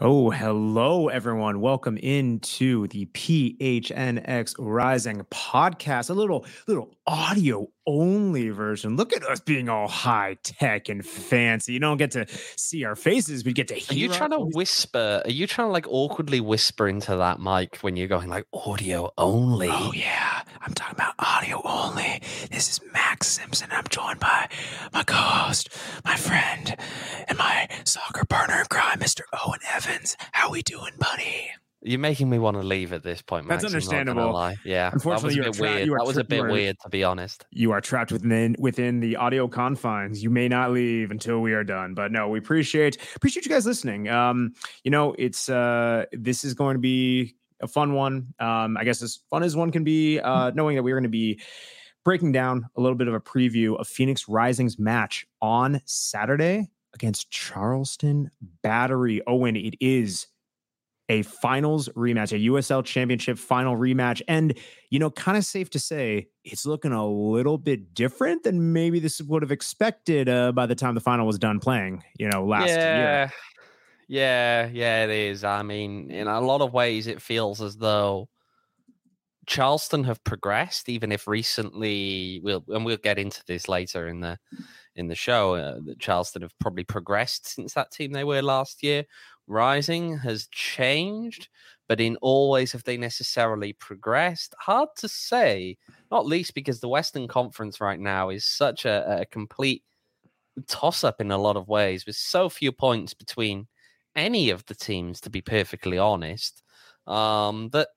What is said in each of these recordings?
Oh, hello, everyone. Welcome into the PHNX Rising podcast, a little audio only version. Look at us being all high tech and fancy. You don't get to see our faces, we get to hear. Are you trying to whisper? Are you trying to like awkwardly whisper into that mic when you're going like audio only? Oh, yeah. I'm talking about audio only. This is Max Simpson. I'm joined by my co-host, my friend, and my soccer partner in crime, Mr. Owen Evans. How we doing, buddy? You're making me want to leave at this point, Max. That's understandable. Lie. Yeah, unfortunately, that was a bit weird. That was a bit weird, to be honest. You are trapped within the audio confines. You may not leave until we are done. But no, we appreciate you guys listening. It's this is going to be a fun one. I guess as fun as one can be, knowing that we're going to be breaking down a little bit of a preview of Phoenix Rising's match on Saturday against Charleston Battery. Owen, it is a finals rematch, a USL Championship final rematch. And, kind of safe to say it's looking a little bit different than maybe this would have expected by the time the final was done playing, last year. Yeah, it is. I mean, in a lot of ways, it feels as though Charleston have progressed, even if recently, we'll get into this later in the show, that Charleston have probably progressed since that team they were last year. Rising has changed, but in all ways have they necessarily progressed? Hard to say, not least because the Western Conference right now is such a complete toss-up in a lot of ways, with so few points between any of the teams, to be perfectly honest, that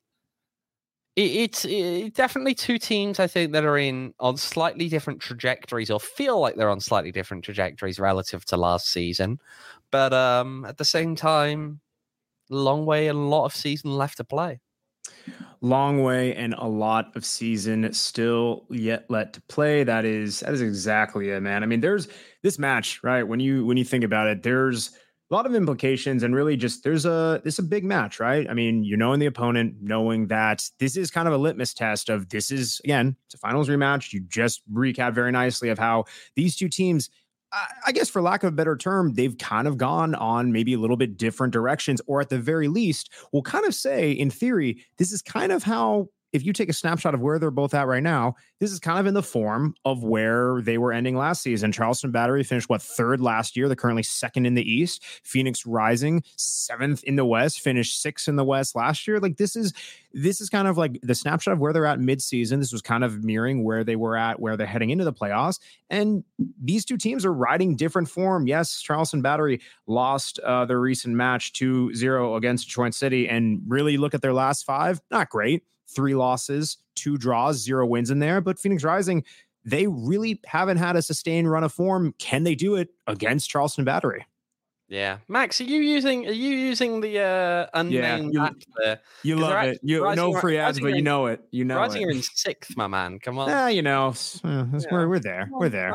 it's definitely two teams, I think, that are on slightly different trajectories, or feel like they're on slightly different trajectories relative to last season. But at the same time, long way and a lot of season left to play. Long way and a lot of season still yet let to play. That is exactly it, man. I mean, there's this match, right? When you think about it, there's a lot of implications, and really just this is a big match, right? I mean, knowing the opponent, knowing that this is kind of a litmus test of this is, again, it's a finals rematch. You just recap very nicely of how these two teams, I guess for lack of a better term, they've kind of gone on maybe a little bit different directions, or at the very least, we'll kind of say in theory, this is kind of how, if you take a snapshot of where they're both at right now, this is kind of in the form of where they were ending last season. Charleston Battery finished, third last year? They're currently second in the East. Phoenix Rising, seventh in the West, finished sixth in the West last year. Like this is kind of like the snapshot of where they're at mid-season. This was kind of mirroring where they were at, where they're heading into the playoffs. And these two teams are riding different form. Yes, Charleston Battery lost their recent match 2-0 against Detroit City. And really look at their last five, not great. 3 losses, 2 draws, 0 wins in there. But Phoenix Rising, they really haven't had a sustained run of form. Can they do it against Charleston Battery? Yeah, Max, are you using the unnamed app there? You love it. No free ads, but you know it. Rising are in 6th, my man. Come on. We're there. We're there.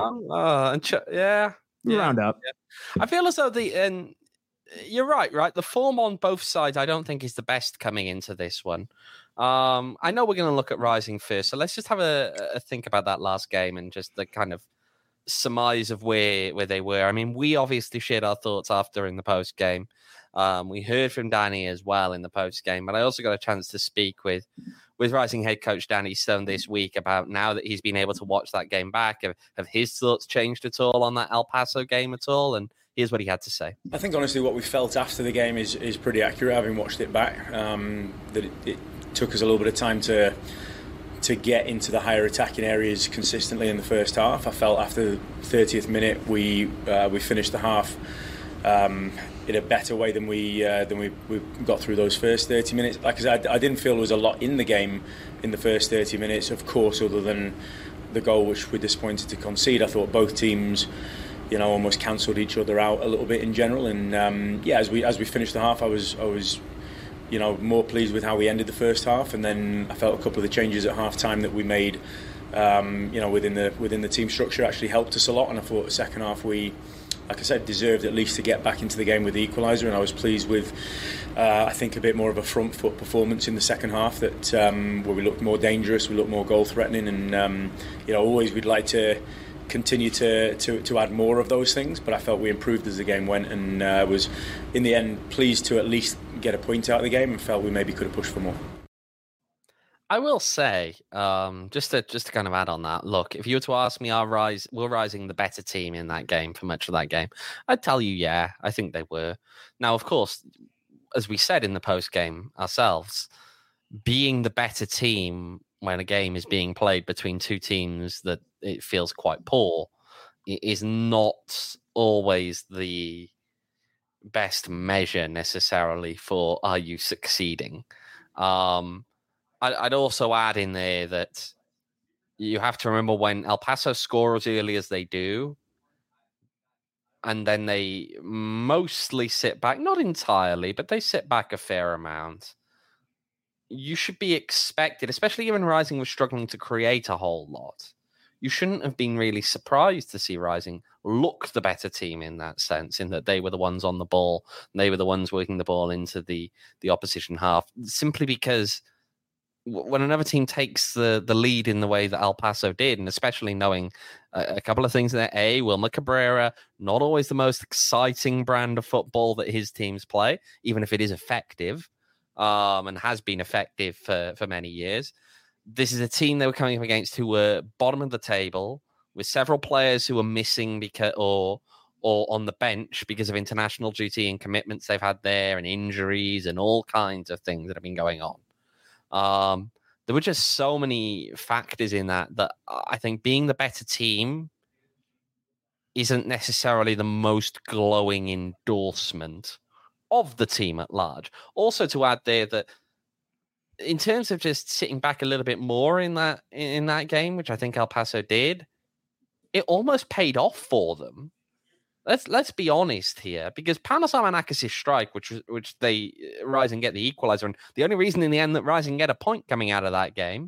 Round up. Yeah. I feel as though and you're right. The form on both sides, I don't think is the best coming into this one. I know we're going to look at Rising first, so let's just have a think about that last game and just the kind of surmise of where they were. I mean, we obviously shared our thoughts after in the post game. We heard from Danny as well in the post game, but I also got a chance to speak with Rising head coach Danny Stone this week about, now that he's been able to watch that game back, have his thoughts changed at all on that El Paso game at all? And here's what he had to say. I think honestly what we felt after the game is pretty accurate, having watched it back. That it took us a little bit of time to get into the higher attacking areas consistently in the first half. I felt after the 30th minute we finished the half in a better way than we got through those first 30 minutes. Like I said, I didn't feel there was a lot in the game in the first 30 minutes, of course, other than the goal which we're disappointed to concede. I thought both teams, almost cancelled each other out a little bit in general. And as we finished the half, I was more pleased with how we ended the first half. And then I felt a couple of the changes at half time that we made, within the team structure actually helped us a lot. And I thought the second half we, like I said, deserved at least to get back into the game with the equaliser. And I was pleased with, I think, a bit more of a front foot performance in the second half, that where we looked more dangerous, we looked more goal threatening. And always we'd like to continue to add more of those things, but I felt we improved as the game went, and was in the end pleased to at least get a point out of the game, and felt we maybe could have pushed for more. I will say, just to kind of add on that, look, if you were to ask me, were Rising the better team in that game for much of that game? I'd tell you, yeah, I think they were. Now, of course, as we said in the post game ourselves, being the better team when a game is being played between two teams that it feels quite poor is not always the best measure necessarily for are you succeeding. I'd also add in there that you have to remember when El Paso score as early as they do, and then they mostly sit back, not entirely, but they sit back a fair amount. You should be expected, especially when Rising was struggling to create a whole lot. You shouldn't have been really surprised to see Rising look the better team in that sense, in that they were the ones on the ball, and they were the ones working the ball into the opposition half, simply because when another team takes the lead in the way that El Paso did, and especially knowing a couple of things there, Wilmer Cabrera, not always the most exciting brand of football that his teams play, even if it is effective, and has been effective for many years. This is a team they were coming up against who were bottom of the table, with several players who were missing because or on the bench because of international duty and commitments they've had there, and injuries and all kinds of things that have been going on. There were just so many factors in that I think being the better team isn't necessarily the most glowing endorsement of the team at large. Also, to add there that in terms of just sitting back a little bit more in that game, which I think El Paso did, it almost paid off for them. Let's be honest here, because Panos Armanakis' strike, which they Rising get the equalizer, and the only reason in the end that Rising get a point coming out of that game,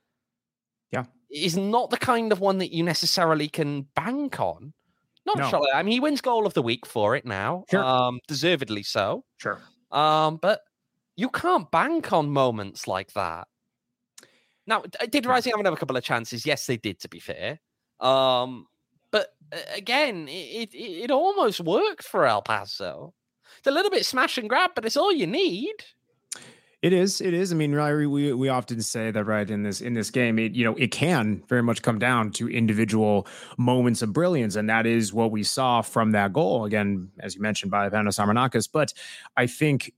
is not the kind of one that you necessarily can bank on. I mean, he wins goal of the week for it now, deservedly so. Sure, but you can't bank on moments like that. Now, did Rising have another couple of chances? Yes, they did, to be fair. But again, it almost worked for El Paso. It's a little bit smash and grab, but it's all you need. It is. I mean, we often say that, right, in this game, it can very much come down to individual moments of brilliance, and that is what we saw from that goal. Again, as you mentioned, by Panos Armanakis. But I think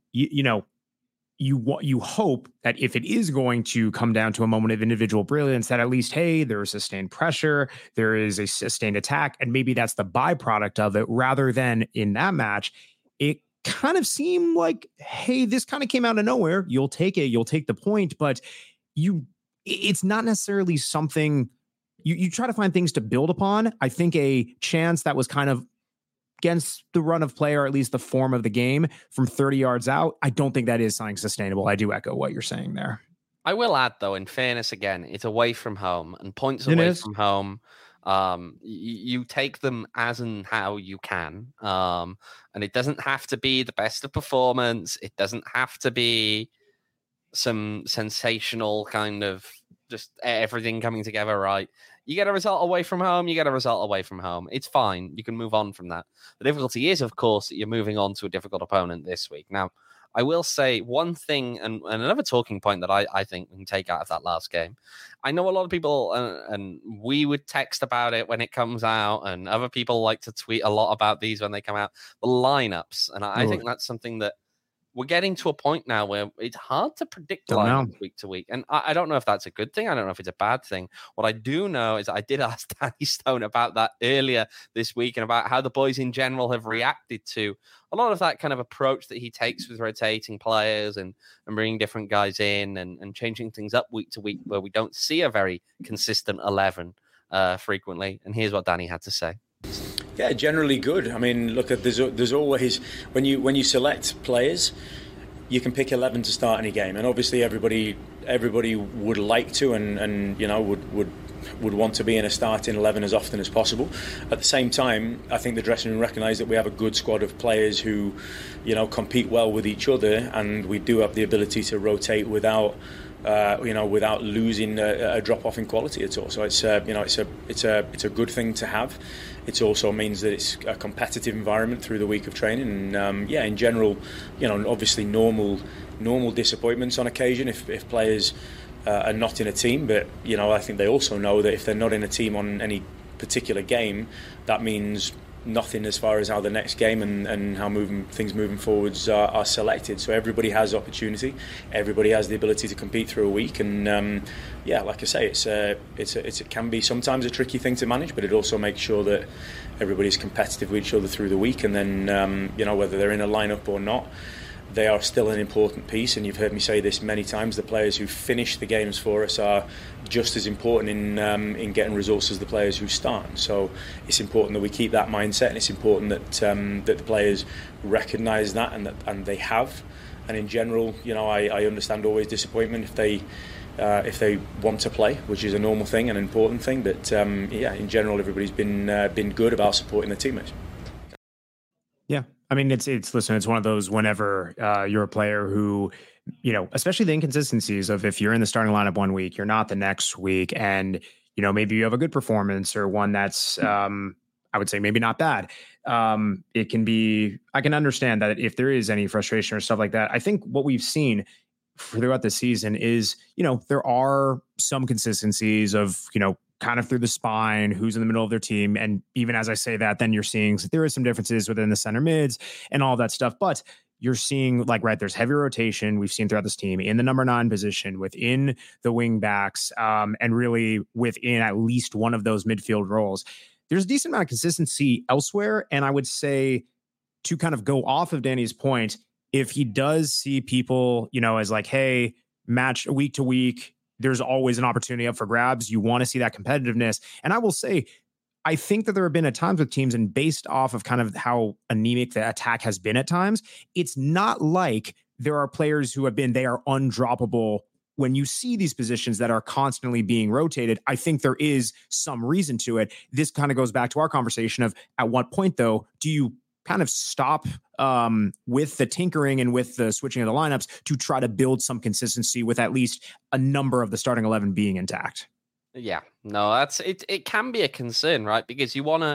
you hope that if it is going to come down to a moment of individual brilliance, that at least, hey, there is sustained pressure, there is a sustained attack, and maybe that's the byproduct of it, rather than in that match, it kind of seemed like, hey, this kind of came out of nowhere. You'll take it. You'll take the point, but it's not necessarily something you try to find things to build upon. I think a chance that was kind of against the run of play, or at least the form of the game from 30 yards out, I don't think that is something sustainable. I do echo what you're saying there. I will add, though, in fairness, again, it's away from home, and points away from home, you take them as and how you can. And it doesn't have to be the best of performance. It doesn't have to be some sensational kind of just everything coming together right. You get a result away from home, It's fine. You can move on from that. The difficulty is, of course, that you're moving on to a difficult opponent this week. Now, I will say one thing, and another talking point that I think we can take out of that last game. I know a lot of people, and we would text about it when it comes out, and other people like to tweet a lot about these when they come out, the lineups. And I think that's something that we're getting to a point now where it's hard to predict lineups week to week. And I don't know if that's a good thing. I don't know if it's a bad thing. What I do know is I did ask Danny Stone about that earlier this week, and about how the boys in general have reacted to a lot of that kind of approach that he takes with rotating players and bringing different guys in and changing things up week to week, where we don't see a very consistent 11 frequently. And here's what Danny had to say. Yeah, generally good. I mean, look, there's always, when you select players, you can pick 11 to start any game, and obviously everybody would like to and would want to be in a starting 11 as often as possible. At the same time, I think the dressing room recognise that we have a good squad of players who, compete well with each other, and we do have the ability to rotate without without losing a drop off in quality at all. So it's a good thing to have. It also means that it's a competitive environment through the week of training. And in general, obviously normal disappointments on occasion if players are not in a team. But I think they also know that if they're not in a team on any particular game, that means nothing as far as how the next game and how things moving forwards are selected. So everybody has opportunity, everybody has the ability to compete through a week, and like I say, it can be sometimes a tricky thing to manage, but it also makes sure that everybody's competitive with each other through the week, and then whether they're in a lineup or not, they are still an important piece. And you've heard me say this many times, the players who finish the games for us are just as important in getting results as the players who start. So it's important that we keep that mindset, and it's important that the players recognise that and they have. And in general, I understand always disappointment if they want to play, which is a normal thing and an important thing. But in general, everybody's been good about supporting their teammates. Yeah. I mean, it's one of those whenever you're a player who, especially the inconsistencies of if you're in the starting lineup one week, you're not the next week. And, maybe you have a good performance or one that's, I would say maybe not bad. It can be, I can understand that if there is any frustration or stuff like that. I think what we've seen throughout the season is, there are some consistencies of, kind of through the spine, who's in the middle of their team. And even as I say that, then you're seeing there is some differences within the center mids and all that stuff. But you're seeing there's heavy rotation we've seen throughout this team in the number 9 position, within the wing backs, and really within at least one of those midfield roles. There's a decent amount of consistency elsewhere. And I would say, to kind of go off of Danny's point, if he does see people, as hey, match week to week, there's always an opportunity up for grabs. You want to see that competitiveness. And I will say, I think that there have been at times with teams, and based off of kind of how anemic the attack has been at times, it's not like there are players who they are undroppable. When you see these positions that are constantly being rotated, I think there is some reason to it. This kind of goes back to our conversation of at what point, though, do you kind of stop with the tinkering and with the switching of the lineups to try to build some consistency with at least a number of the starting 11 being intact? Yeah, no, that's it. It can be a concern, right? Because you want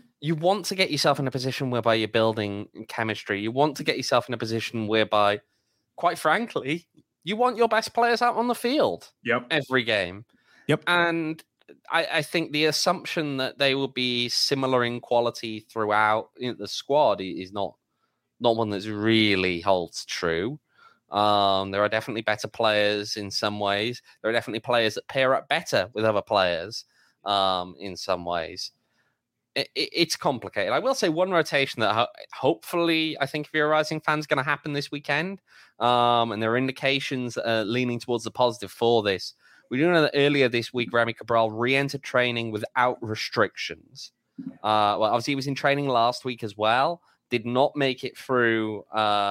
to get yourself in a position whereby you're building chemistry. You want to get yourself in a position whereby, quite frankly, you want your best players out on the field. Yep. Every game. Yep. And I think the assumption that they will be similar in quality throughout the squad is not one that really holds true. There are definitely better players in some ways. There are definitely players that pair up better with other players in some ways. It's complicated. I will say one rotation that hopefully I think if you're a Rising fan is going to happen this weekend. And there are indications leaning towards the positive for this. We do know that earlier this week, Remy Cabral re-entered training without restrictions. Obviously he was in training last week as well. Did not make it through,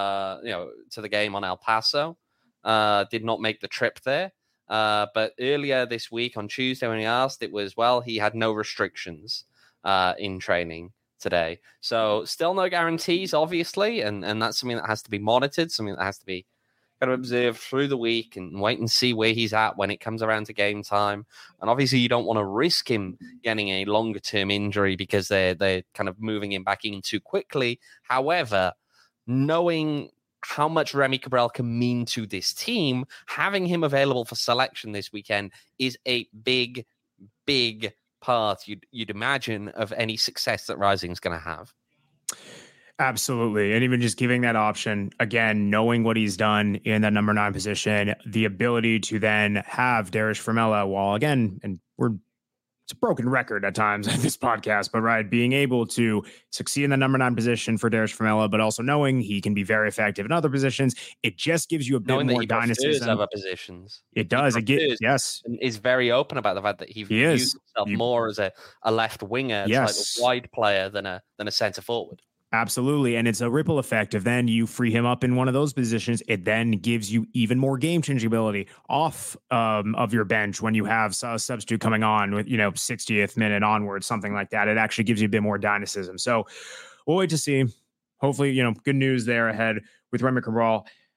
to the game on El Paso. Did not make the trip there. But earlier this week on Tuesday when he asked, it was, he had no restrictions in training today. So still no guarantees, obviously. And that's something that has to be monitored, something that has to be kind of observe through the week and wait and see where he's at when it comes around to game time. And obviously you don't want to risk him getting a longer term injury because they're kind of moving him back in too quickly. However, knowing how much Remy Cabral can mean to this team, having him available for selection this weekend is a big, big part, you'd imagine, of any success that Rising is going to have. Absolutely. And even just giving that option, again, knowing what he's done in that number 9 position, the ability to then have Darius Formella, while again, and it's a broken record at times at this podcast, but right, being able to succeed in the number 9 position for Darius Formella, but also knowing he can be very effective in other positions, it just gives you a bit more dynamism. Other positions. It does. Yes. And is very open about the fact that he views himself more as a left winger, like a wide player than a center forward. Absolutely. And it's a ripple effect of then you free him up in one of those positions. It then gives you even more game changing ability off of your bench when you have a substitute coming on with, 60th minute onwards, something like that. It actually gives you a bit more dynamism. So we'll wait to see. Hopefully, good news there ahead with Remy Cabral.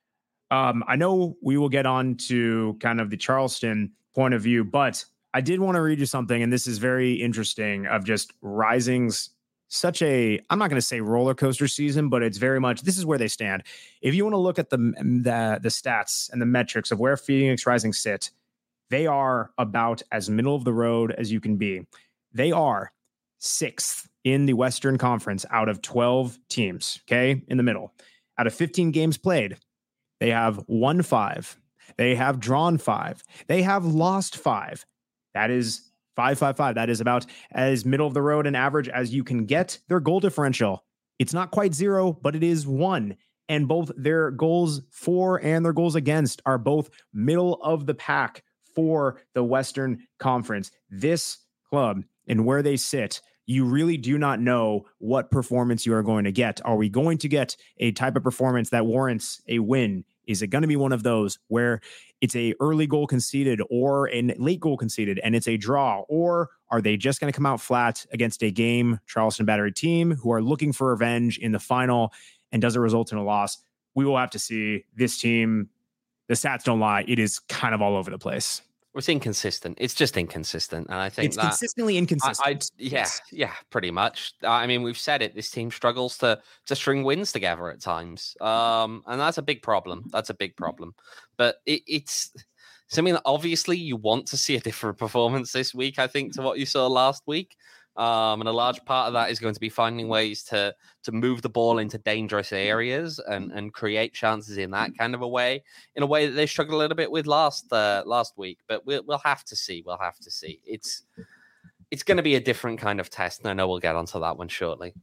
I know we will get on to kind of the Charleston point of view, but I did want to read you something, and this is very interesting, of just Rising's such a, I'm not going to say roller coaster season, but it's very much, this is where they stand. If you want to look at the stats and the metrics of where Phoenix Rising sit, they are about as middle of the road as you can be. They are 6th in the Western Conference out of 12 teams, okay, in the middle. Out of 15 games played, they have won 5. They have drawn 5. They have lost 5. That is 5-5-5. That is about as middle of the road and average as you can get. Their goal differential, it's not quite 0, but it is 1. And both their goals for and their goals against are both middle of the pack for the Western Conference. This club and where they sit, you really do not know what performance you are going to get. Are we going to get a type of performance that warrants a win? Is it going to be one of those where it's a early goal conceded or a late goal conceded and it's a draw? Or are they just going to come out flat against a game Charleston Battery team who are looking for revenge in the final, and does it result in a loss? We will have to see. This team, the stats don't lie. It is kind of all over the place. It's inconsistent. It's just inconsistent. And I think it's consistently inconsistent. Yeah, pretty much. I mean, we've said it. This team struggles to string wins together at times. And that's a big problem. But it's something that obviously you want to see a different performance this week, I think, to what you saw last week. And a large part of that is going to be finding ways to move the ball into dangerous areas and create chances in that kind of a way that they struggled a little bit with last week. But we'll have to see. It's going to be a different kind of test, and I know we'll get onto that one shortly.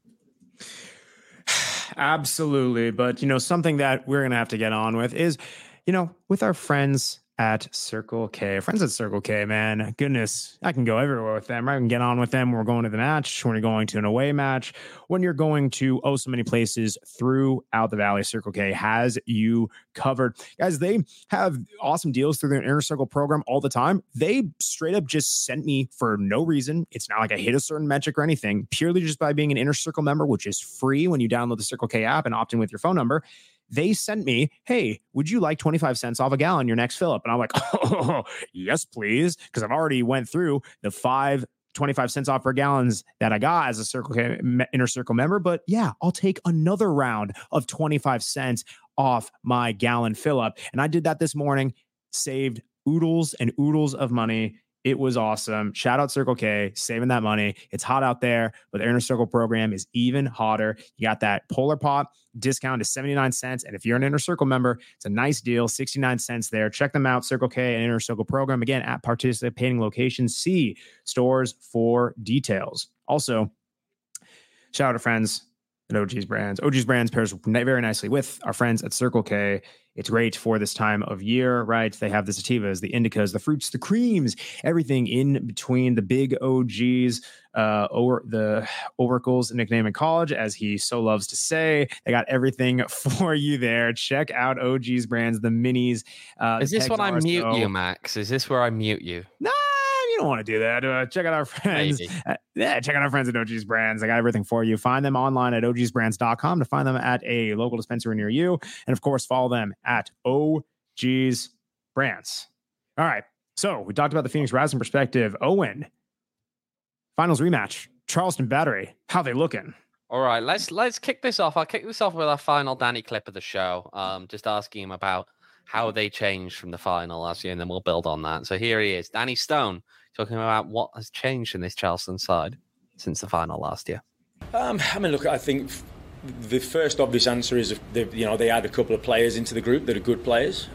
Absolutely. But, something that we're going to have to get on with is, with our friends at Circle K. Friends at Circle K, man. Goodness, I can go everywhere with them. I can get on with them. We're going to the match, when you're going to an away match, when you're going to so many places throughout the Valley. Circle K has you covered. Guys, they have awesome deals through their Inner Circle program all the time. They straight up just sent me for no reason. It's not like I hit a certain metric or anything, purely just by being an Inner Circle member, which is free when you download the Circle K app and opt in with your phone number. They sent me, hey, would you like 25 cents off a gallon your next fill up? And I'm like, oh, yes, please. Because I've already went through the 25 cents off per gallons that I got as a Circle K Inner Circle member. But yeah, I'll take another round of 25 cents off my gallon fill up. And I did that this morning, saved oodles and oodles of money. It was awesome. Shout out Circle K, saving that money. It's hot out there, but the Inner Circle program is even hotter. You got that Polar Pop discount to 79 cents. And if you're an Inner Circle member, it's a nice deal, 69 cents there. Check them out, Circle K and Inner Circle program. Again, at participating locations, see stores for details. Also, shout out to friends at OG's Brands. OG's Brands pairs very nicely with our friends at Circle K. It's great for this time of year, right? They have the sativas, the indicas, the fruits, the creams, everything in between. The big OGs, or the Oracle's nickname in college, as he so loves to say. They got everything for you there. Check out OG's Brands, the minis. Is this when I mute you, Max? Is this where I mute you? No. You don't want to do that. Check out our friends. Check out our friends at OG's Brands. They got everything for you. Find them online at ogsbrands.com to find them at a local dispensary near you. And of course, follow them at OG's Brands. All right. So we talked about the Phoenix Rising perspective. Owen, finals rematch. Charleston Battery. How they looking? All right. Let's kick this off. I'll kick this off with our final Danny clip of the show. Just asking him about how they changed from the final last year, and then we'll build on that. So here he is, Danny Stone, talking about what has changed in this Charleston side since the final last year. Look, I think the first obvious answer is they add a couple of players into the group that are good players.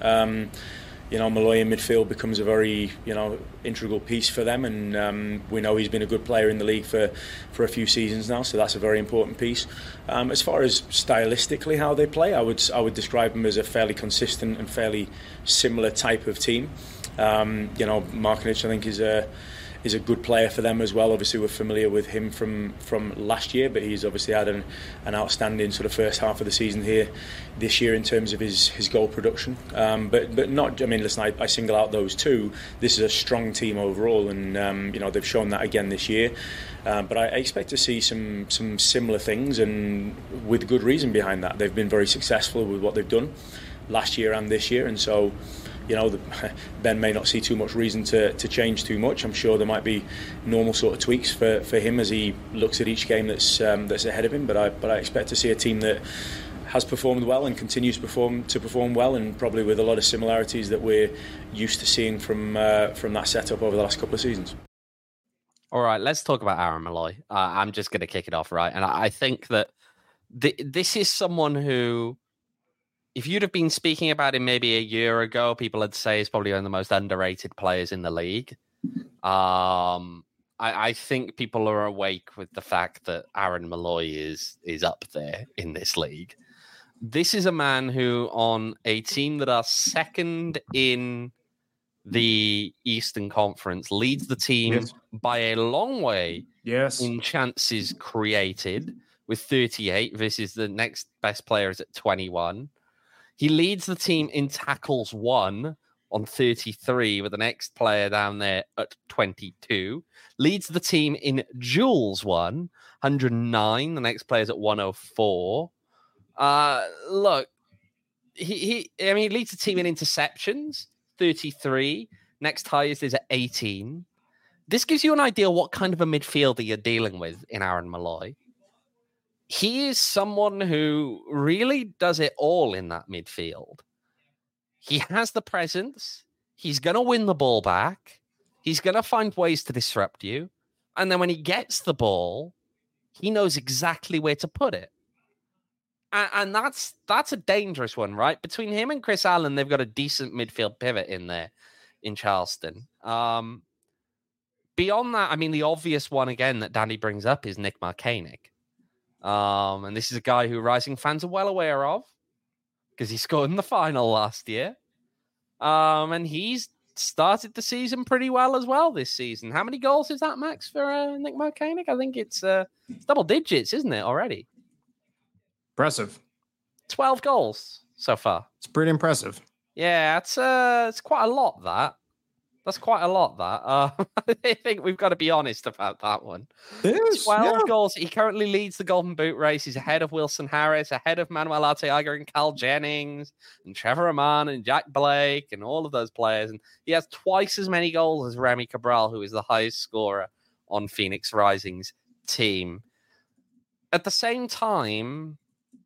Malloy in midfield becomes a very integral piece for them, and we know he's been a good player in the league for a few seasons now, so that's a very important piece. As far as stylistically how they play, I would describe them as a fairly consistent and fairly similar type of team. Markinich, I think, is a good player for them as well. Obviously, we're familiar with him from last year, but he's obviously had an outstanding sort of first half of the season here this year in terms of his goal production. But not. I mean, listen, I single out those two. This is a strong team overall, and they've shown that again this year. But I expect to see some similar things, and with good reason behind that. They've been very successful with what they've done. last year and this year, and so Ben may not see too much reason to change too much. I'm sure there might be normal sort of tweaks for him as he looks at each game that's ahead of him, but I expect to see a team that has performed well and continues to perform well, and probably with a lot of similarities that we're used to seeing from that setup over the last couple of seasons. All right, let's talk about Aaron Molloy. I'm just going to kick it off, right? And I think that this is someone who, if you'd have been speaking about him maybe a year ago, people would say he's probably one of the most underrated players in the league. I think people are awake with the fact that Aaron Molloy is up there in this league. This is a man who, on a team that are second in the Eastern Conference, leads the team by a long way in chances created with 38 versus the next best player is at 21. He leads the team in tackles won on 33 with the next player down there at 22. Leads the team in duels won, 109. The next player's at 104. Look, he leads the team in interceptions, 33. Next highest is at 18. This gives you an idea what kind of a midfielder you're dealing with in Aaron Molloy. He is someone who really does it all in that midfield. He has the presence. He's going to win the ball back. He's going to find ways to disrupt you. And then when he gets the ball, he knows exactly where to put it. And that's a dangerous one, right? Between him and Chris Allen, they've got a decent midfield pivot in there in Charleston. Beyond that, I mean, the obvious one, again, that Danny brings up is Nick Markanek. And this is a guy who Rising fans are well aware of because he scored in the final last year. And he's started the season pretty well as well this season. How many goals is that, Max, for Nick Markanek? I think it's double digits, isn't it, already? Impressive. 12 goals so far. It's pretty impressive. Yeah, it's quite a lot, that. That's quite a lot, that. I think we've got to be honest about that one. 12 goals. He currently leads the Golden Boot race. He's ahead of Wilson Harris, ahead of Manuel Arteaga and Cal Jennings and Trevor Aman and Jack Blake and all of those players. And he has twice as many goals as Remy Cabral, who is the highest scorer on Phoenix Rising's team. At the same time,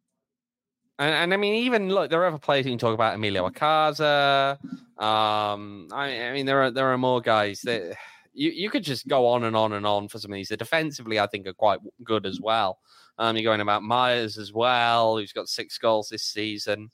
and I mean, even look, there are other players you can talk about. Emilio Acaza. I mean, there are more guys that you could just go on and on and on for some of these. The defensively, I think, are quite good as well. You're going about Myers as well, who's got 6 goals this season.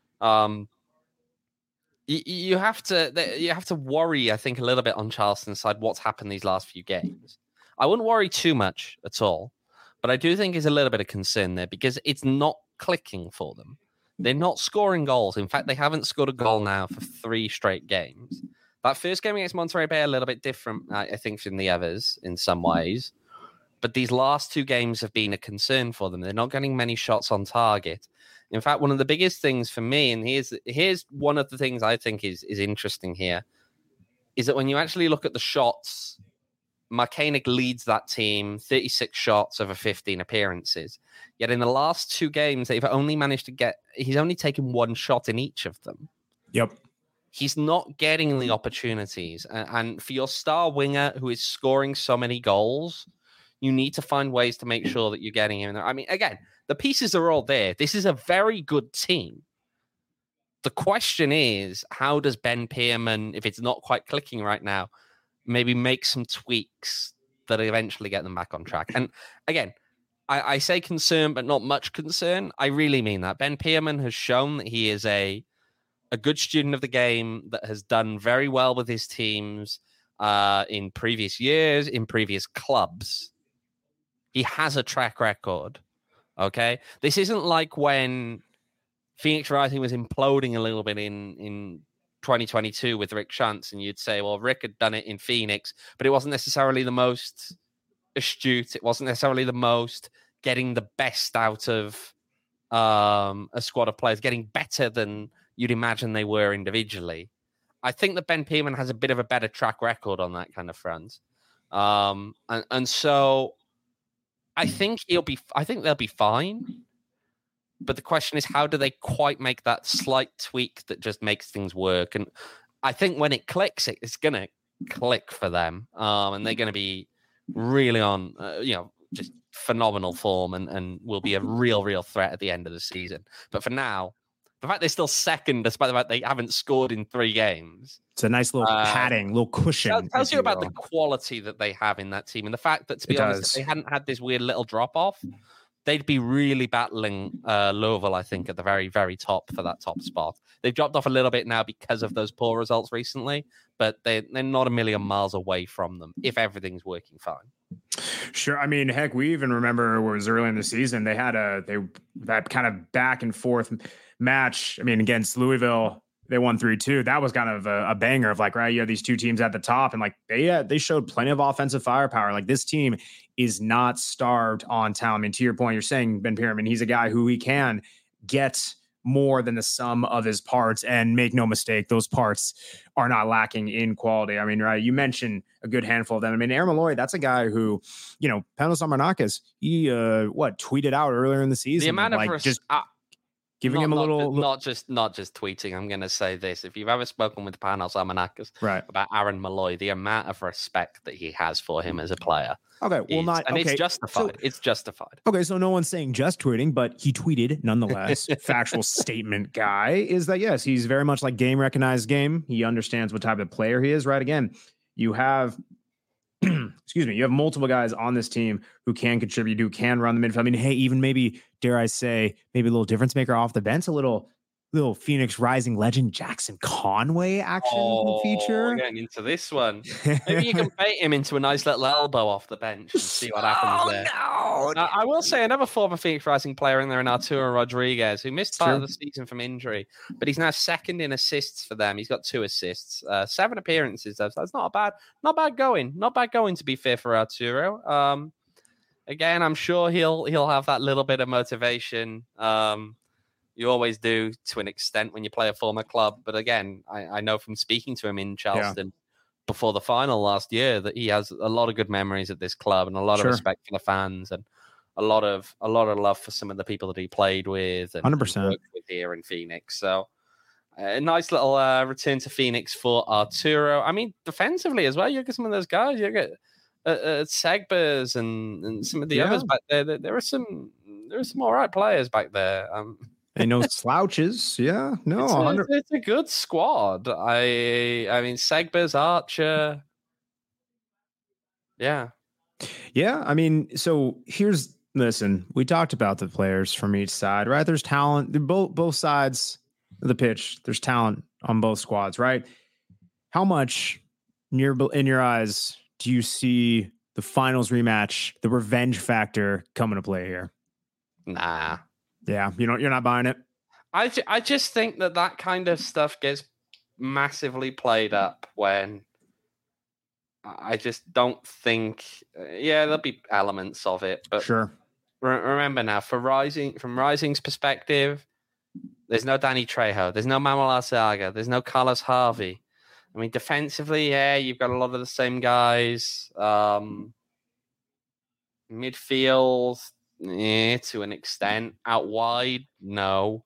You have to worry, I think, a little bit on Charleston's side what's happened these last few games. I wouldn't worry too much at all, but I do think there's a little bit of concern there because it's not clicking for them. They're not scoring goals. In fact, they haven't scored a goal now for 3 straight games. That first game against Monterey Bay, a little bit different, I think, from the others in some ways. But these last 2 games have been a concern for them. They're not getting many shots on target. In fact, one of the biggest things for me, and here's one of the things I think is interesting here, is that when you actually look at the shots, Markanek leads that team, 36 shots over 15 appearances. Yet in the last 2 games, he's only taken 1 shot in each of them. Yep. He's not getting the opportunities. And for your star winger who is scoring so many goals, you need to find ways to make sure that you're getting him in there. I mean, again, the pieces are all there. This is a very good team. The question is, how does Ben Pearman, if it's not quite clicking right now, maybe make some tweaks that eventually get them back on track? And again, I say concern, but not much concern. I really mean that. Ben Pearman has shown that he is a good student of the game that has done very well with his teams in previous years, in previous clubs. He has a track record, okay? This isn't like when Phoenix Rising was imploding a little bit in 2022 with Rick Shantz, and you'd say, well, Rick had done it in Phoenix, but it wasn't necessarily the most astute. It wasn't necessarily the most getting the best out of a squad of players, getting better than you'd imagine they were individually. I think that Ben Pearman has a bit of a better track record on that kind of front. And so I think they'll be fine. But the question is, how do they quite make that slight tweak that just makes things work? And I think when it clicks, it's going to click for them. And they're going to be really on, just phenomenal form and will be a real threat at the end of the season. But for now, the fact they're still second, despite the fact they haven't scored in 3 games. It's a nice little padding, little cushion. Tells you about the quality that they have in that team. And the fact that, to be honest, if they hadn't had this weird little drop-off, they'd be really battling Louisville, I think, at the very, very top for that top spot. They've dropped off a little bit now because of those poor results recently, but they're not a million miles away from them if everything's working fine. Sure. I mean, heck, we even remember it was early in the season. They had that kind of back and forth match. I mean, against Louisville, they won 3-2. That was kind of a banger of like, right, you have these two teams at the top, and like they showed plenty of offensive firepower. Like, this team is not starved on talent. I mean, to your point, you're saying Ben Pierman, he's a guy who he can get more than the sum of his parts, and make no mistake, those parts are not lacking in quality. I mean, right, you mentioned a good handful of them. I mean, Aaron Malloy, that's a guy who, Panos Amarnakas, he tweeted out earlier in the season, the amount of giving him a little, not just tweeting. I'm going to say this: if you've ever spoken with Panos Amarnakas about Aaron Malloy, the amount of respect that he has for him as a player. Okay, well, it's justified. It's justified. Okay, so no one's saying just tweeting, but he tweeted nonetheless. Factual statement guy is that, yes, he's very much like game recognized game. He understands what type of player he is. Right? Again, you have. You have multiple guys on this team who can contribute, who can run the midfield. I mean, hey, even maybe, dare I say, maybe a little difference maker off the bench, a little Phoenix Rising legend Jackson Conway action feature. We're getting into this one. Maybe you can bait him into a nice little elbow off the bench and see what happens there. No. I will say another former Phoenix Rising player in there, in Arturo Rodriguez, who missed part of the season from injury, but he's now second in assists for them. He's got 2 assists, 7 appearances. So that's not bad going. Not bad going, to be fair, for Arturo. Again, I'm sure he'll have that little bit of motivation. You always do, to an extent, when you play a former club. But again, I know from speaking to him in Charleston before the final last year that he has a lot of good memories at this club and a lot of respect for the fans and a lot of love for some of the people that he played with and 100% worked with here in Phoenix. So a nice little return to Phoenix for Arturo. I mean, defensively as well, you get some of those guys. You get Segbers and some of the others back there. There are some all right players back there. And no slouches. Yeah, no, it's a good squad. I mean, Segbers, Archer. Yeah. I mean, so listen, we talked about the players from each side, right? There's talent. Both sides of the pitch. There's talent on both squads, right? How much in your eyes do you see the finals rematch, the revenge factor, coming to play here? Nah. Yeah, you're not buying it. I just think that kind of stuff gets massively played up when I just don't think. There'll be elements of it, but sure. Remember now, from Rising's perspective, there's no Danny Trejo, there's no Manuel Arceaga, there's no Carlos Harvey. I mean, defensively, you've got a lot of the same guys. Midfield. To an extent. Out wide, no.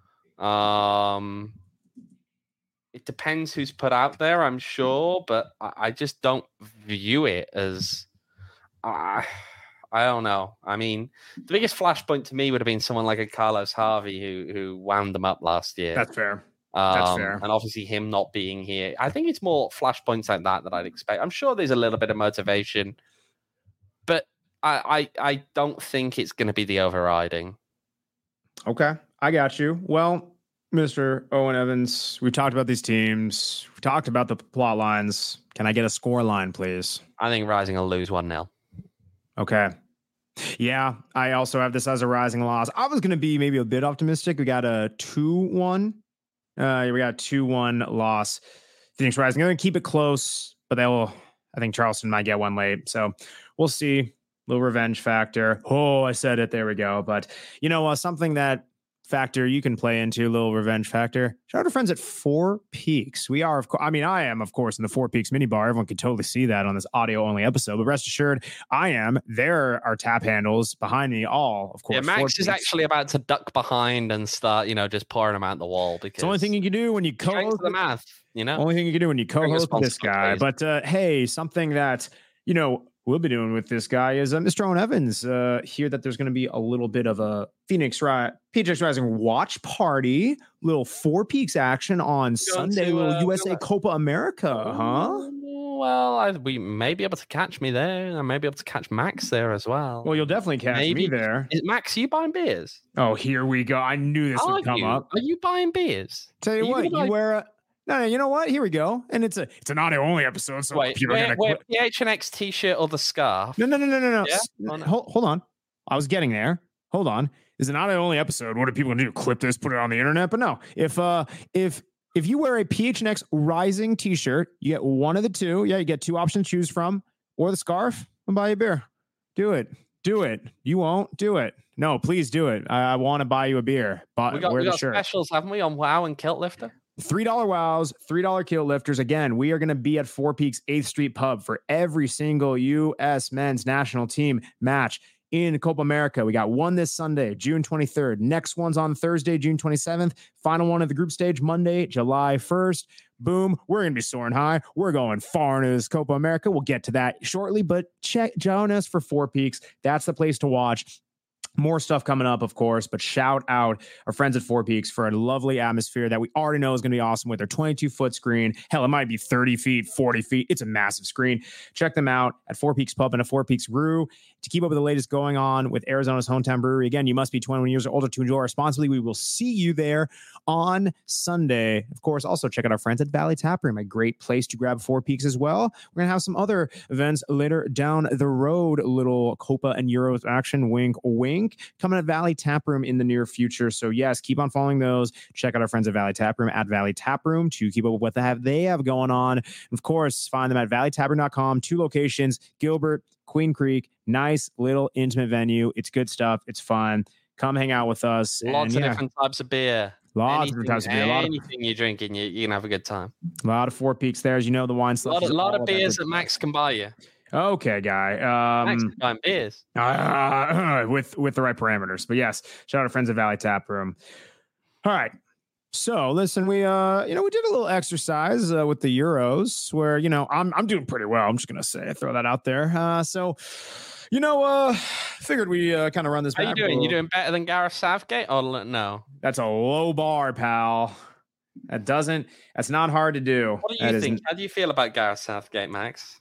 It depends who's put out there, I'm sure, but I just don't view it as. I don't know. I mean, the biggest flashpoint to me would have been someone like a Carlos Harvey who wound them up last year. That's fair. That's fair. And obviously him not being here. I think it's more flashpoints like that I'd expect. I'm sure there's a little bit of motivation, but I don't think it's going to be the overriding. Okay, I got you. Well, Mr. Owen Evans, we talked about these teams. We talked about the plot lines. Can I get a score line, please? I think Rising will lose 1-0. Okay. Yeah, I also have this as a Rising loss. I was going to be maybe a bit optimistic. We got a 2-1. We got a 2-1 loss. Phoenix Rising. I'm going to keep it close, but I think Charleston might get one late. So we'll see. Little revenge factor. Oh, I said it. There we go. But, something that factor you can play into, a little revenge factor. Shout out to friends at Four Peaks. We are, of course, I am, of course, in the Four Peaks mini bar. Everyone can totally see that on this audio only episode, but rest assured, I am. There are tap handles behind me, all, of course. Yeah, Max is actually about to duck behind and start, just pouring them out the wall, because it's the only thing you can do when you co-host the math, Only thing you can do when you co-host this guy. But hey, something that, we'll be doing with this guy is Mr. Owen Evans. Hear that there's going to be a little bit of a PHX Rising watch party, little Four Peaks action on Sunday, little USA Copa America, huh? Well, we may be able to catch me there. I may be able to catch Max there as well. Well, you'll definitely catch me there. Max, are you buying beers? Oh, here we go. I knew this would come up. Are you buying beers? Tell you what, you wear a... No, you know what? Here we go. And it's an audio only episode. So wait, wear PHNX t-shirt or the scarf? No. Yeah? Hold on. I was getting there. Hold on. It's an audio only episode. What are people gonna do? Clip this, put it on the internet? But no, if you wear a PHNX Rising t-shirt, you get one of the two. Yeah, you get two options to choose from, or the scarf. I'll buy you a beer. Do it. You won't do it. No, please do it. I want to buy you a beer. But we got specials, haven't we, on WoW and Kilt Lifter? $3 wows, $3 kilt lifters. Again, we are going to be at Four Peaks 8th Street Pub for every single U.S. men's national team match in Copa America. We got one this Sunday, June 23rd. Next one's on Thursday, June 27th. Final one of the group stage, Monday, July 1st. Boom. We're going to be soaring high. We're going far into this Copa America. We'll get to that shortly, but join us for Four Peaks. That's the place to watch. More stuff coming up, of course, but shout out our friends at Four Peaks for a lovely atmosphere that we already know is going to be awesome with their 22-foot screen. Hell, it might be 30 feet, 40 feet. It's a massive screen. Check them out at Four Peaks Pub and a Four Peaks Brew to keep up with the latest going on with Arizona's hometown brewery. Again, you must be 21 years or older to enjoy responsibly. We will see you there on Sunday. Of course, also check out our friends at Valley Tap Room, a great place to grab Four Peaks as well. We're going to have some other events later down the road, a little Copa and Euros action, wink, wink, coming at Valley Tap Room in the near future. So yes, keep on following those. Check out our friends at Valley Tap Room at Valley Tap Room to keep up with what they have going on. Of course, find them at valleytaproom.com. 2 locations, Gilbert, Queen Creek. Nice little intimate venue. It's good stuff. It's fun. Come hang out with us. Lots of different types of beer. Lots of different types of beer. Anything you're drinking, you can have a good time. A lot of Four Peaks there. As you know, the wine stuff. A lot of beers that Max can buy you. Okay, guy. Max can buy beers. With the right parameters. But yes, shout out to friends at Valley Tap Room. All right. So listen, we did a little exercise with the Euros where, I'm doing pretty well. I'm just going to say, throw that out there. Figured we kind of run this. How you doing? You doing better than Gareth Southgate? Oh, no. That's a low bar, pal. That's not hard to do. What do you think? How do you feel about Gareth Southgate, Max?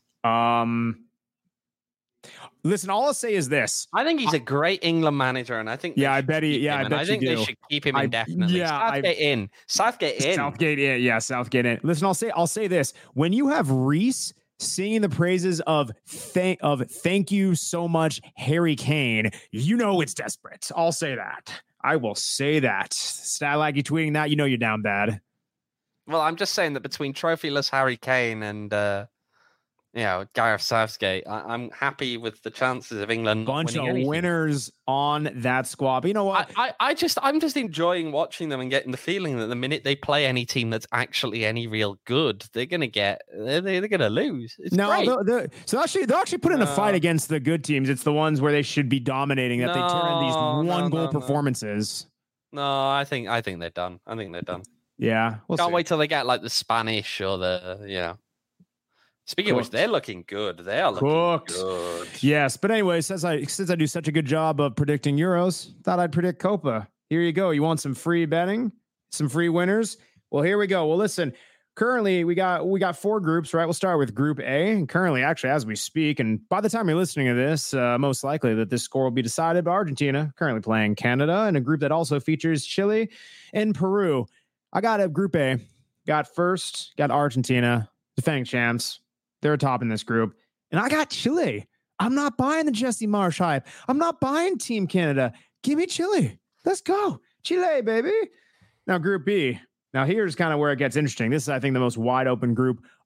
Listen, all I'll say is this. I think he's a great England manager, and I think I bet I think they should keep him indefinitely. Southgate in. Southgate in. Yeah, Southgate in. Listen, I'll say this. When you have Reese singing the praises of thank you so much, Harry Kane, it's desperate. I'll say that. I will say that. Statlagy tweeting that, you're down bad. Well, I'm just saying that between trophyless Harry Kane and Gareth Southgate, I'm happy with the chances of England. Bunch of winners on that squad. But you know what? I'm just enjoying watching them and getting the feeling that the minute they play any team that's actually any real good, they're gonna lose. It's great. They'll actually put in a fight against the good teams. It's the ones where they should be dominating that they turn in these one goal performances. No, I think they're done. I think they're done. Yeah, can't wait till they get like the Spanish or the Speaking of which, they're looking good. They are looking good. Yes, but anyway, since I do such a good job of predicting Euros, thought I'd predict Copa. Here you go. You want some free betting, some free winners? Well, here we go. Well, listen. Currently, we got 4 groups, right? We'll start with Group A. And currently, actually, as we speak, and by the time you're listening to this, most likely that this score will be decided by Argentina, currently playing Canada, in a group that also features Chile and Peru. I got a Group A. Got Argentina, defending champs. They're top in this group. And I got Chile. I'm not buying the Jesse Marsch hype. I'm not buying Team Canada. Give me Chile. Let's go. Chile, baby. Now, Group B. Now, here's kind of where it gets interesting. This is, I think, the most wide open group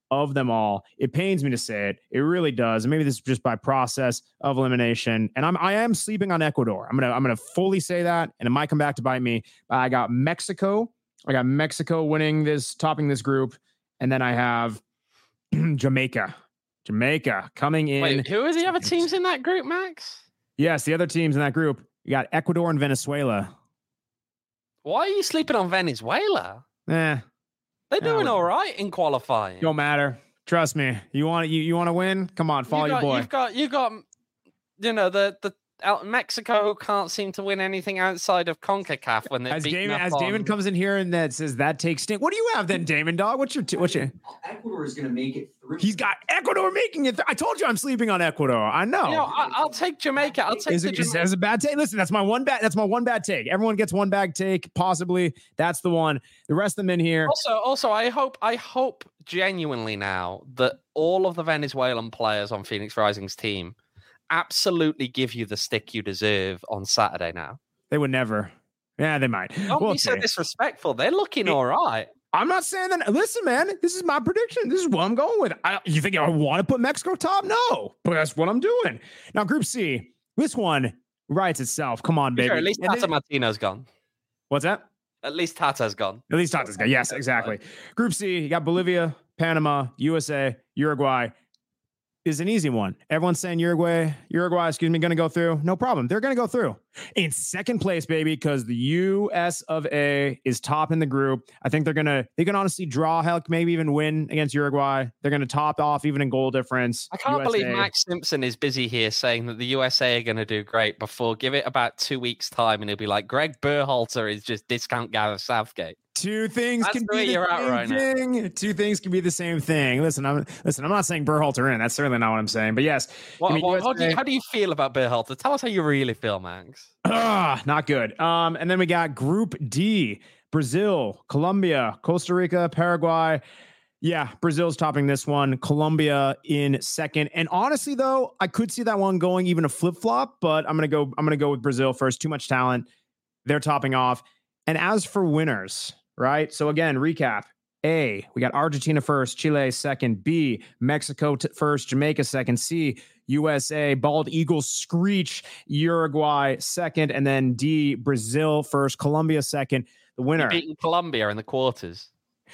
of them all. It pains me to say it. It really does. And maybe this is just by process of elimination. And I am sleeping on Ecuador. I'm gonna fully say that, and it might come back to bite me. I got Mexico. I got Mexico winning this, topping this group, and then I have Jamaica. Jamaica coming in. Wait, who are the other teams in that group, Max? Yes, the other teams in that group. You got Ecuador and Venezuela. Why are you sleeping on Venezuela? They're doing all right in qualifying. Don't matter. Trust me. You want to win? Come on, follow your boy. You've got the Mexico can't seem to win anything outside of CONCACAF when they're Damon comes in here and that says that takes stink. What do you have then, Damon dog? What's your Ecuador is going to make it through. He's got Ecuador making it. I told you I'm sleeping on Ecuador. I know. I'll take Jamaica. I'll take Jamaica. Is a bad take? Listen, that's my one bad take. Everyone gets one bad take, possibly. That's the one. The rest of them in here. Also, I hope genuinely now that all of the Venezuelan players on Phoenix Rising's team absolutely give you the stick you deserve on Saturday now. They would never. Yeah, they might. Don't be so disrespectful. They're looking all right. I'm not saying that. Listen, man, this is my prediction. This is what I'm going with. You think I want to put Mexico top? No, but that's what I'm doing. Now, Group C, this one writes itself. Come on, baby. Sure, at least Tata Martino's gone. What's that? At least Tata's gone. At least Tata's gone. Yes, exactly. Group C, you got Bolivia, Panama, USA, Uruguay. Is an easy one. Everyone's saying Uruguay, going to go through. No problem. They're going to go through. In second place, baby, because the US of A is top in the group. I think they can honestly draw, heck, maybe even win against Uruguay. They're going to top off even in goal difference. I can't believe Max Simpson is busy here saying that the USA are going to do great before give it about 2 weeks time and he'll be like, Greg Berhalter is just discount Gareth Southgate. Two things can be the same thing. Two things can be the same thing. Listen, I'm not saying Berhalter in. That's certainly not what I'm saying. But yes. How do you feel about Berhalter? Tell us how you really feel, Max. Not good. And then we got Group D: Brazil, Colombia, Costa Rica, Paraguay. Yeah, Brazil's topping this one. Colombia in second. And honestly, though, I could see that one going even a flip-flop, but I'm gonna go with Brazil first. Too much talent. They're topping off. And as for winners, right? So again, recap. A, we got Argentina first, Chile second. B, Mexico first, Jamaica second. C, USA, Bald Eagles screech, Uruguay second. And then D, Brazil first, Colombia second. The winner. Beating Colombia in the quarters.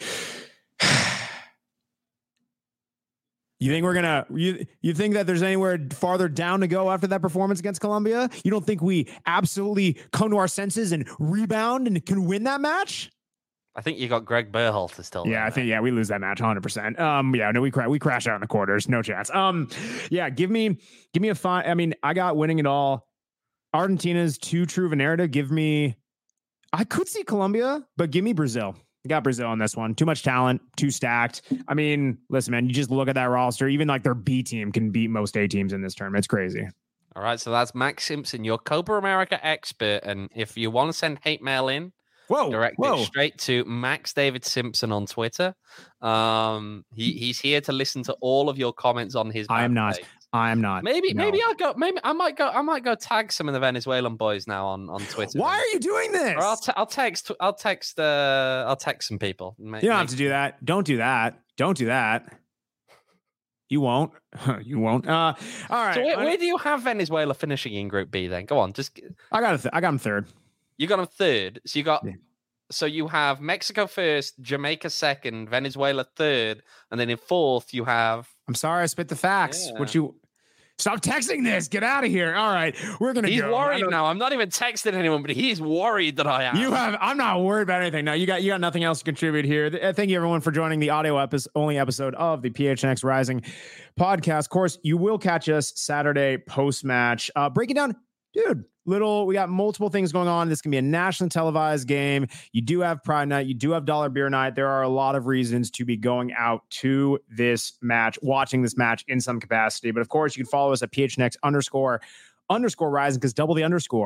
You think we're gonna? You think that there's anywhere farther down to go after that performance against Colombia? You don't think we absolutely come to our senses and rebound and can win that match? I think you got Greg Berhalter still. Yeah, I think we lose that match 100%. We crash out in the quarters, no chance. Give me a fine. I mean, I got winning it all. Argentina's too true of a narrative. I could see Colombia, but give me Brazil. I got Brazil on this one. Too much talent, too stacked. I mean, listen, man, you just look at that roster. Even like their B team can beat most A teams in this tournament. It's crazy. All right, so that's Max Simpson, your Copa America expert. And if you want to send hate mail in, direct it straight to Max David Simpson on Twitter. He's here to listen to all of your comments on his. I am not. Maybe I might go tag some of the Venezuelan boys now on Twitter. Why are you doing this? Or I'll text some people. You don't have to do that. Don't do that. Don't do that. You won't. You won't. All right. So where do you have Venezuela finishing in Group B then? Go on. I got them third. You got them third. So you got. Yeah. So you have Mexico first, Jamaica second, Venezuela third, and then in fourth you have. I'm sorry, I spit the facts. Yeah. Stop texting this. Get out of here. All right, we're gonna. He's worried now. I'm not even texting anyone, but he's worried that I am. I'm not worried about anything. No, you got nothing else to contribute here. Thank you everyone for joining the audio only episode of the PHNX Rising podcast. Of course, you will catch us Saturday post match, breaking down, dude. We got multiple things going on. This can be a nationally televised game. You do have Pride Night. You do have Dollar Beer Night. There are a lot of reasons to be going out to this match, watching this match in some capacity. But of course, you can follow us at PHNX __Rising because double the underscore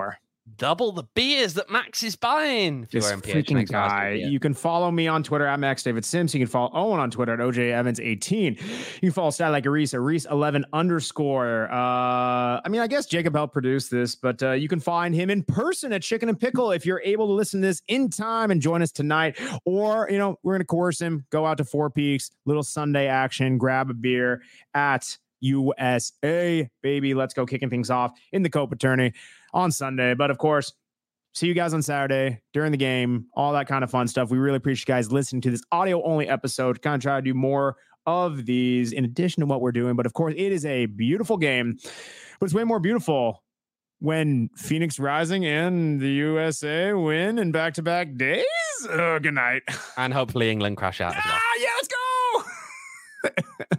double the beers that Max is buying. If This you're MPH freaking next last guy. year. You can follow me on Twitter at Max David Sims. You can follow Owen on Twitter at OJ Evans 18. You can follow Stat Like a Reese at Reese 11 _. I mean, I guess Jacob helped produce this, but you can find him in person at Chicken and Pickle if you're able to listen to this in time and join us tonight. Or, you know, we're going to coerce him, go out to Four Peaks, little Sunday action, grab a beer at USA, baby. Let's go kicking things off in the Copa Tourney on Sunday. But of course, see you guys on Saturday during the game, all that kind of fun stuff. We really appreciate you guys listening to this audio only episode. Kind of try to do more of these in addition to what we're doing. But of course, it is a beautiful game, but it's way more beautiful when Phoenix Rising and the USA win in back-to-back days. Oh, good night. And hopefully England crash out as well. Yeah, let's go.